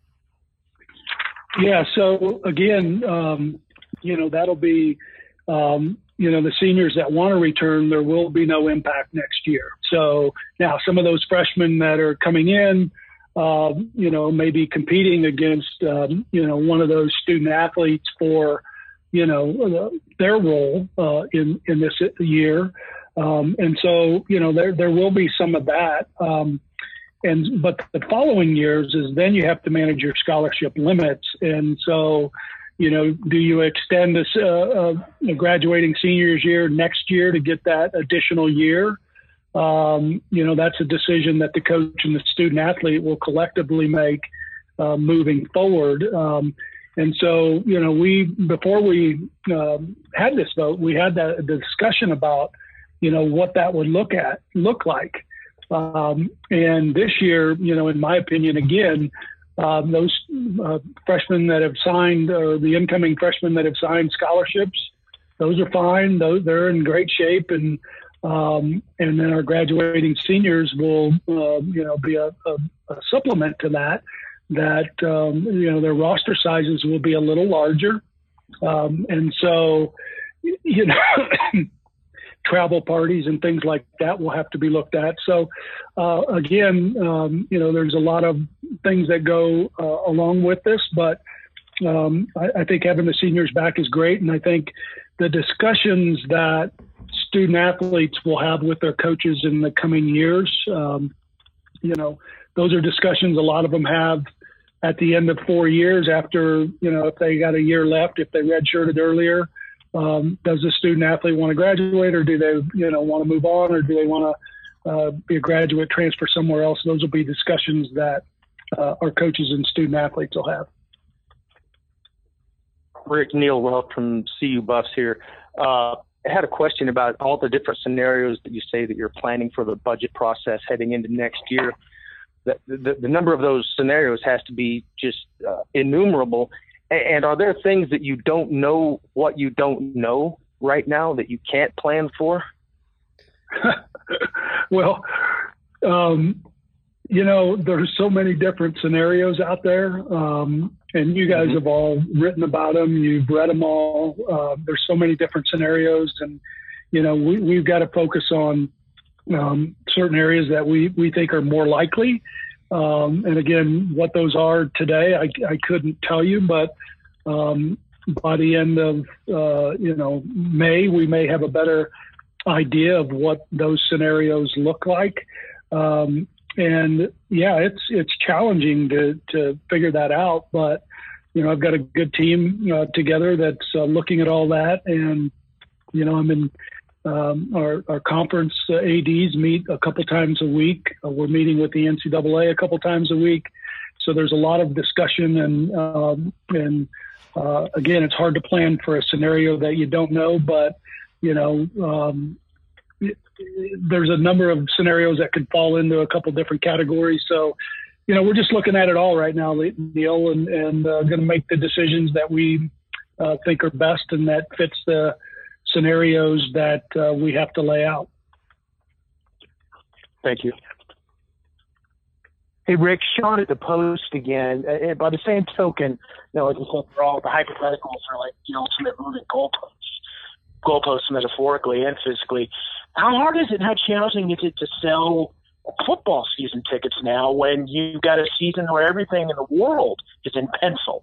S8: Yeah, so again, um, you know, that'll be, um, you know, the seniors that want to return, there will be no impact next year. So now some of those freshmen that are coming in, uh, you know, maybe competing against, um, you know, one of those student athletes for, you know, their role uh, in, in this year. Um, and so, you know, there, there will be some of that. Um, and, but the following years is then you have to manage your scholarship limits. And so, you know, do you extend this uh, uh, graduating seniors year next year to get that additional year? Um, you know, that's a decision that the coach and the student athlete will collectively make uh, moving forward. Um, And so, you know, we, before we um, had this vote, we had that the discussion about, you know, what that would look at, look like. Um, and this year, you know, in my opinion, again, um, those uh, freshmen that have signed, or the incoming freshmen that have signed scholarships, those are fine. Those, they're in great shape. And, um, and then our graduating seniors will, uh, you know, be a, a, a supplement to that. that, um, you know, their roster sizes will be a little larger. Um, and so, you know, travel parties and things like that will have to be looked at. So, uh, again, um, you know, there's a lot of things that go uh, along with this, but um, I, I think having the seniors back is great. And I think the discussions that student athletes will have with their coaches in the coming years. Um, you know, those are discussions a lot of them have at the end of four years after, you know, if they got a year left, if they redshirted earlier. Um, does the student athlete want to graduate, or do they, you know, want to move on, or do they want to uh, be a graduate, transfer somewhere else? Those will be discussions that uh, our coaches and student athletes will have.
S19: Rick, Neil Welch from C U Buffs here. Uh, I had a question about all the different scenarios that you say that you're planning for the budget process heading into next year. The, the, the number of those scenarios has to be just uh, innumerable. And are there things that you don't know what you don't know right now that you can't plan for?
S8: Well, um, you know, there's so many different scenarios out there, um, and you guys mm-hmm. have all written about them. You've read them all. Uh, there's so many different scenarios, and, you know, we, we've got to focus on um, certain areas that we, we think are more likely. Um, and again, what those are today, I, I couldn't tell you, but um, by the end of, uh, you know, May, we may have a better idea of what those scenarios look like. Um, and yeah, it's, it's challenging to, to figure that out, but, you know, I've got a good team uh, together that's uh, looking at all that. And, you know, I'm in, Um, our, our conference uh, A Ds meet a couple times a week. Uh, we're meeting with the N C double A a couple times a week. So there's a lot of discussion, and um, and uh, again, it's hard to plan for a scenario that you don't know. But you know, um, it, it, there's a number of scenarios that could fall into a couple different categories. So, you know, we're just looking at it all right now, Neil, and and uh, going to make the decisions that we uh, think are best and that fits the scenarios that uh, we have to lay out.
S19: Thank you.
S14: Hey, Rick, Sean at the Post again. Uh, by the same token, you know, like we said, for all the hypotheticals are like the ultimate moving goalposts, goalposts metaphorically and physically. How hard is it, how challenging is it to sell football season tickets now when you've got a season where everything in the world is in pencil?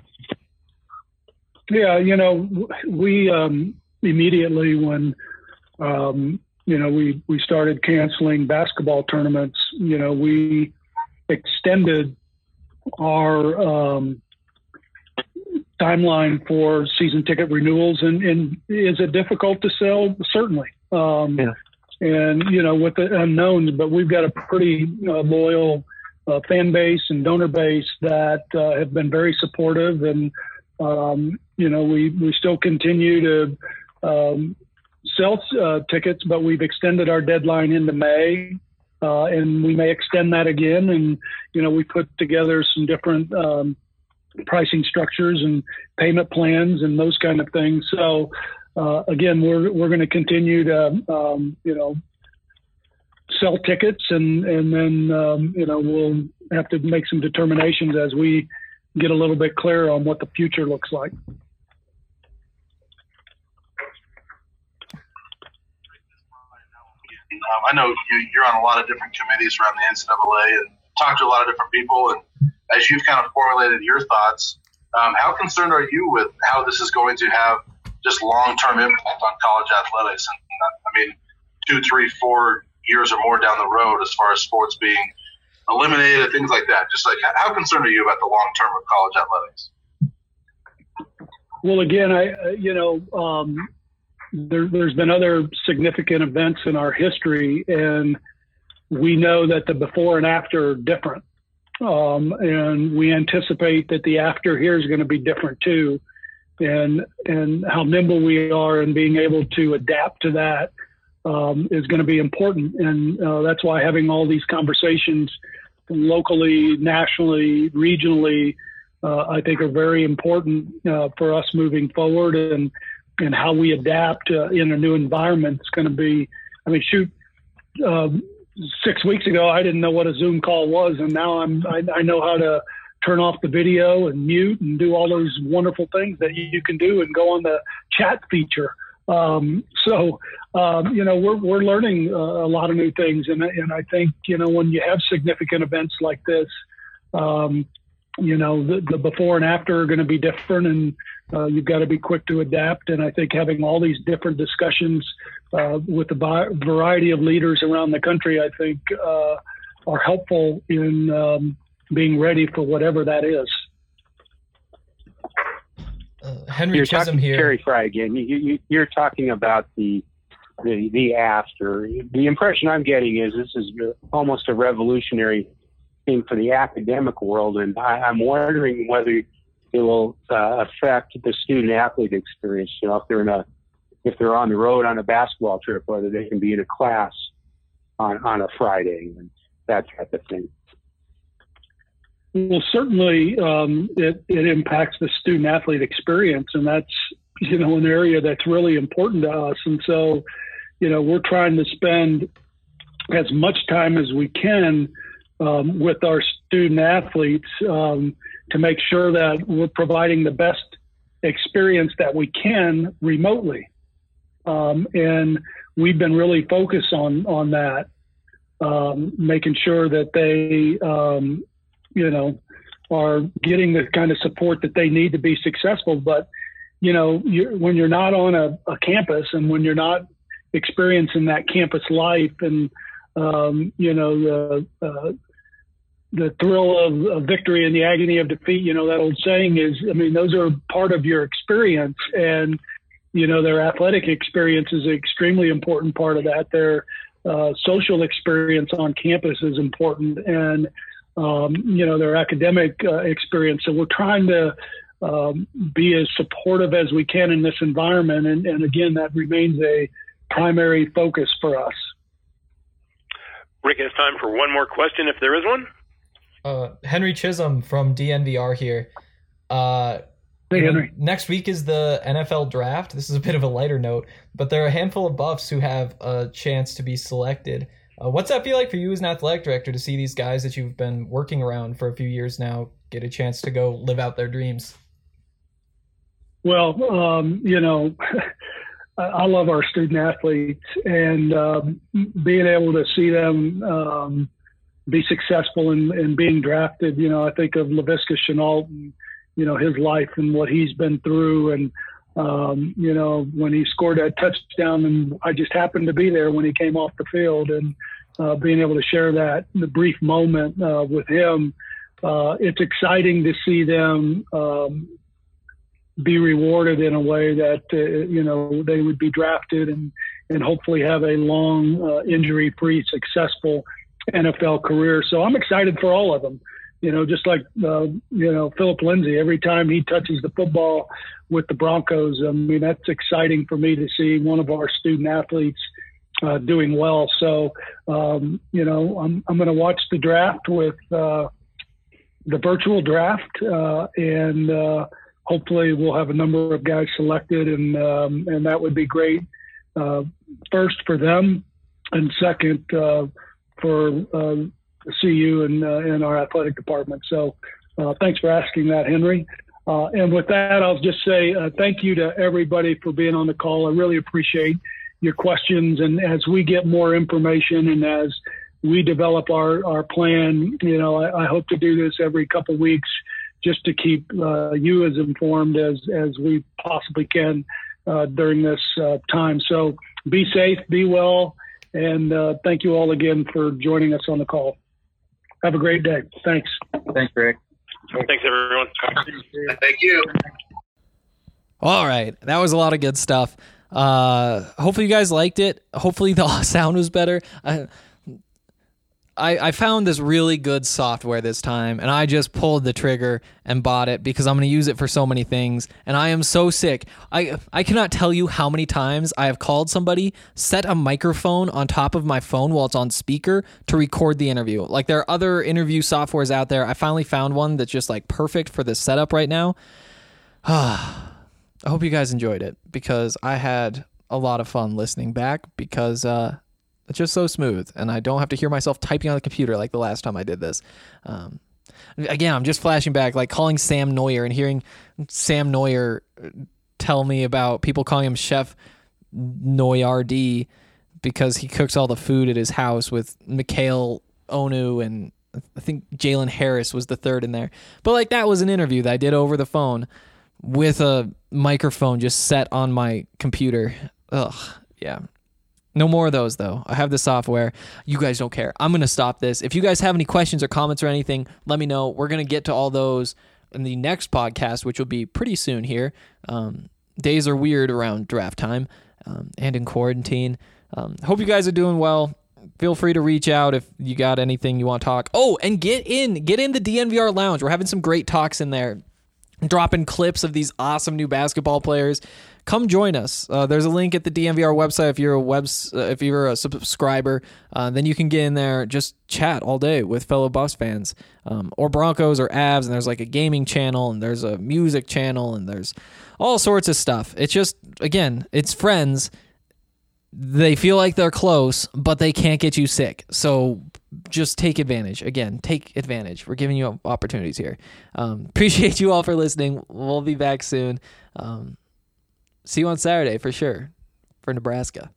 S8: Yeah, you know, we um, immediately when, um, you know, we, we started canceling basketball tournaments, you know, we extended our um, timeline for season ticket renewals. And, and is it difficult to sell? Certainly. Um, yeah. And, you know, with the unknowns, but we've got a pretty uh, loyal uh, fan base and donor base that uh, have been very supportive. And, um, you know, we, we still continue to um, sell uh, tickets, but we've extended our deadline into May, uh, and we may extend that again. And, you know, we put together some different um, pricing structures and payment plans and those kind of things. So, uh, again, we're, we're going to continue to, um, you know, sell tickets, and, and then, um, you know, we'll have to make some determinations as we get a little bit clearer on what the future looks like.
S17: Um, I know you, you're on a lot of different committees around the N C double A and talk to a lot of different people. And as you've kind of formulated your thoughts, um, how concerned are you with how this is going to have just long-term impact on college athletics? And I mean, two, three, four years or more down the road, as far as sports being eliminated, things like that. Just like, how concerned are you about the long-term of college athletics?
S8: Well, again, I, you know, um, There, there's been other significant events in our history, and we know that the before and after are different. Um, and we anticipate that the after here is going to be different too. And, and how nimble we are in being able to adapt to that um, is going to be important. And uh, that's why having all these conversations locally, nationally, regionally, uh, I think are very important uh, for us moving forward. And, and how we adapt uh, in a new environment is going to be, I mean, shoot, um, six weeks ago, I didn't know what a Zoom call was. And now I'm, I, I know how to turn off the video and mute and do all those wonderful things that you, you can do and go on the chat feature. Um, so, um, you know, we're, we're learning uh, a lot of new things. And, and I think, you know, when you have significant events like this, um, you know, the, the before and after are going to be different, and uh, you've got to be quick to adapt. And I think having all these different discussions uh, with a variety of leaders around the country, I think uh, are helpful in um, being ready for whatever that is.
S6: Uh, Henry
S12: you're
S6: Chisholm
S12: talking,
S6: here.
S12: Terry Fry again. You, you, you're talking about the the the after. The impression I'm getting is this is almost a revolutionary thing for the academic world, and I, I'm wondering whether it will uh, affect the student athlete experience. You know, if they're in a if they're on the road on a basketball trip, whether they can be in a class on on a Friday and that type of thing.
S8: Well, certainly um, it, it impacts the student athlete experience, and that's, you know, an area that's really important to us. And so, you know, we're trying to spend as much time as we can um, with our student athletes um, to make sure that we're providing the best experience that we can remotely. Um, and we've been really focused on, on that, um, making sure that they, um, you know, are getting the kind of support that they need to be successful. But, you know, you're, when you're not on a, a campus and when you're not experiencing that campus life and, um, you know, the, uh, the thrill of, of victory and the agony of defeat, you know, that old saying is, I mean, those are part of your experience. And, you know, their athletic experience is an extremely important part of that. Their uh, social experience on campus is important. And, Um, you know, their academic uh, experience. So we're trying to um, be as supportive as we can in this environment. And, and again, that remains a primary focus for us.
S7: Rick, it's time for one more question, if there is one.
S6: Uh, Henry Chisholm from D N V R here. Uh,
S8: hey,
S6: you know,
S8: Henry.
S6: Next week is the N F L draft. This is a bit of a lighter note, but there are a handful of Buffs who have a chance to be selected. Uh, what's that feel like for you as an athletic director to see these guys that you've been working around for a few years now get a chance to go live out their dreams?
S8: Well, um, you know, I love our student athletes, and um, being able to see them um, be successful in, in being drafted. You know, I think of Laviska Shenault and, you know, his life and what he's been through. And, um, you know, when he scored that touchdown, and I just happened to be there when he came off the field, and uh, being able to share that, the brief moment uh, with him, uh, it's exciting to see them um, be rewarded in a way that, uh, you know, they would be drafted and, and hopefully have a long, uh, injury-free, successful N F L career. So I'm excited for all of them. You know, just like, uh, you know, Philip Lindsay, every time he touches the football with the Broncos, I mean, that's exciting for me to see one of our student athletes uh, doing well. So, um, you know, I'm, I'm going to watch the draft with uh, the virtual draft uh, and uh, hopefully we'll have a number of guys selected, and, um, and that would be great. Uh, first for them, and second uh, for uh, C U and, uh, and our athletic department. So uh, thanks for asking that, Henry. Uh, and with that, I'll just say uh, thank you to everybody for being on the call. I really appreciate your questions. And as we get more information and as we develop our, our plan, you know, I, I hope to do this every couple of weeks just to keep uh, you as informed as, as we possibly can uh, during this uh, time. So be safe, be well, and uh, thank you all again for joining us on the call. Have a great day. Thanks.
S11: Thanks, Rick.
S7: Thanks, everyone. Thank you.
S6: All right. That was a lot of good stuff. Uh, hopefully you guys liked it. Hopefully the sound was better. I, I, I found this really good software this time, and I just pulled the trigger and bought it because I'm going to use it for so many things, and I am so sick. I I cannot tell you how many times I have called somebody, set a microphone on top of my phone while it's on speaker to record the interview. Like, there are other interview softwares out there. I finally found one that's just like perfect for this setup right now. I hope you guys enjoyed it because I had a lot of fun listening back because uh it's just so smooth, and I don't have to hear myself typing on the computer like the last time I did this. Um, again, I'm just flashing back, like calling Sam Neuer and hearing Sam Neuer tell me about people calling him Chef Noyardi because he cooks all the food at his house with Mikhail Onu, and I think Jalen Harris was the third in there. But like, that was an interview that I did over the phone with a microphone just set on my computer. Ugh, yeah. No more of those, though. I have the software. You guys don't care. I'm going to stop this. If you guys have any questions or comments or anything, let me know. We're going to get to all those in the next podcast, which will be pretty soon here. Um, days are weird around draft time um, and in quarantine. Um, hope you guys are doing well. Feel free to reach out if you got anything you want to talk. Oh, and get in. Get in the D N V R Lounge. We're having some great talks in there. Dropping clips of these awesome new basketball players. Come join us. Uh, there's a link at the D N V R website if you're a webs uh, if you're a subscriber. Uh, then you can get in there, just chat all day with fellow Buffs fans, um, or Broncos or Avs. And there's like a gaming channel, and there's a music channel, and there's all sorts of stuff. It's just, again, it's friends. They feel like they're close, but they can't get you sick. So just take advantage. Again, take advantage. We're giving you opportunities here. Um, appreciate you all for listening. We'll be back soon. Um, see you on Saturday for sure for Nebraska.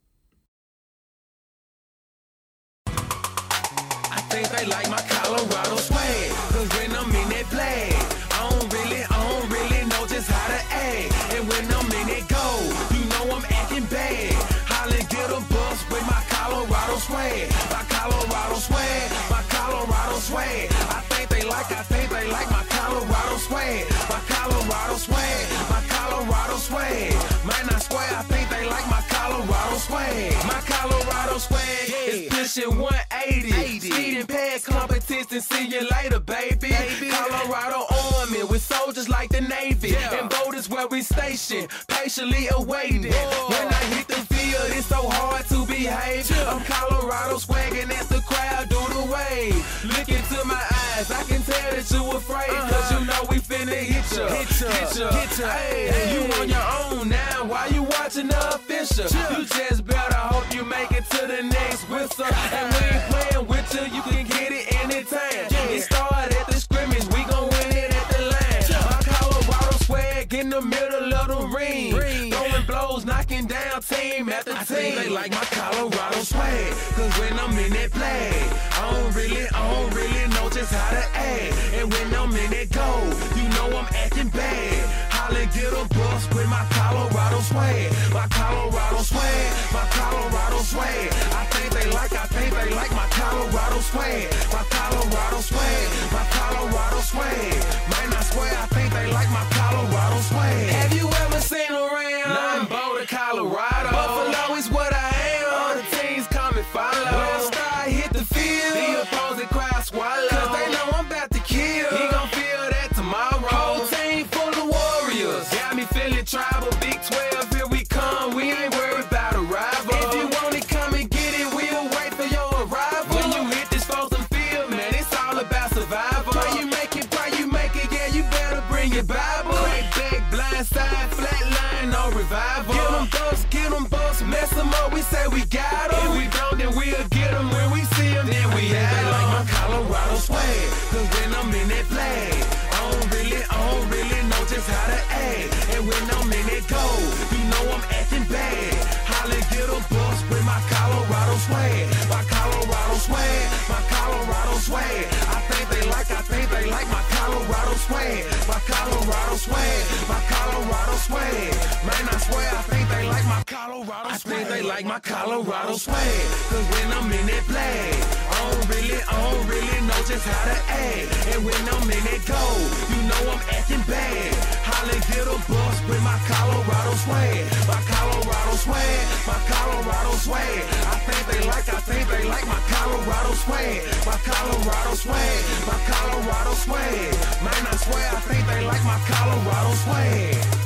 S5: I think they like my Colorado swag, cause when I'm in that play, I don't really, I don't really know just how to act. And when I'm in that go, you know I'm acting bad. Holly get a bus with my Colorado swag, my Colorado swag, my Colorado swag. I think they like, I think they like my Colorado swag, my Colorado swag, my Colorado swag. Man, I swear, I think they like my Colorado swag, my Colorado swag is pushing one eighty. Speeding past competition, see you later, baby. baby. Colorado Army with soldiers like the Navy, yeah. And boat is where we station, patiently awaiting. Whoa. When I hit the field, it's so hard to behave. Yeah. I'm Colorado swagging as the crowd do the wave. Look into my eyes, I can tell that you afraid, uh-huh. Cause you know we finna hit ya, hit ya, hit ya, hit ya. Hey, hey. You on your own now, why you watching the official? Yeah. You just better hope you make it to the next whistle. And we ain't playing with you, you can get it anytime. Yeah. It started at the scrimmage, we gon' win it at the line. Yeah. My Colorado swag in the middle of the ring, ring. Throwing blows, knocking down team after team. I think they like my Colorado swag, cause when I'm in that play, I don't really, I don't really know just how to act. And when I'm in that go, you know I'm acting bad. Holly get a bus with my Colorado swag, my Colorado swag, my Colorado swag. I think they like, I think they like my Colorado swag, my Colorado swag, my Colorado swag. Man, I swear, I think they like my Colorado swag. Have you ever seen around? None Boulder, Colorado. Buffalo is what I am. All the teams come and follow. When I start hit the field, the opposing crowd swallow. Cause they know I'm about to kill. He gon' feel that tomorrow. Whole team full of warriors. Got me feeling tribal. Big twelve, here we come. We ain't worried about a rival. If you want it, come and get it. We'll wait for your arrival. When you hit this frozen field, man, it's all about survival. Pray you make it, pray you make it. Yeah, you better bring your Bible. Crack back, blind side, flat line, no revival. Get them bucks, get them bucks, mess them up. We say we got them. If we don't, then we'll get them. When we see them, then we have them. Like my Colorado swag, cause when I'm in that play, I don't really, I don't really know just how to act. And when I'm in that go, you know I'm acting bad. Holly get a bus with my Colorado swag, my Colorado swag, my Colorado swag. I think they like, I think they like my Colorado swag, my Colorado swag, my Colorado swag. Man, I swear, I think they like my Colorado swag. I think they like my Colorado swag, cause when I'm in that play, I don't really, I don't really know just how to act. And when I'm in that go, you know I'm acting bad. Holly get a bus with my Colorado swag, my Colorado swag, my Colorado swag. I think they like, I think they like my Colorado swag, my Colorado swag, my Colorado swag. Man, I swear, I think they like my Colorado swag.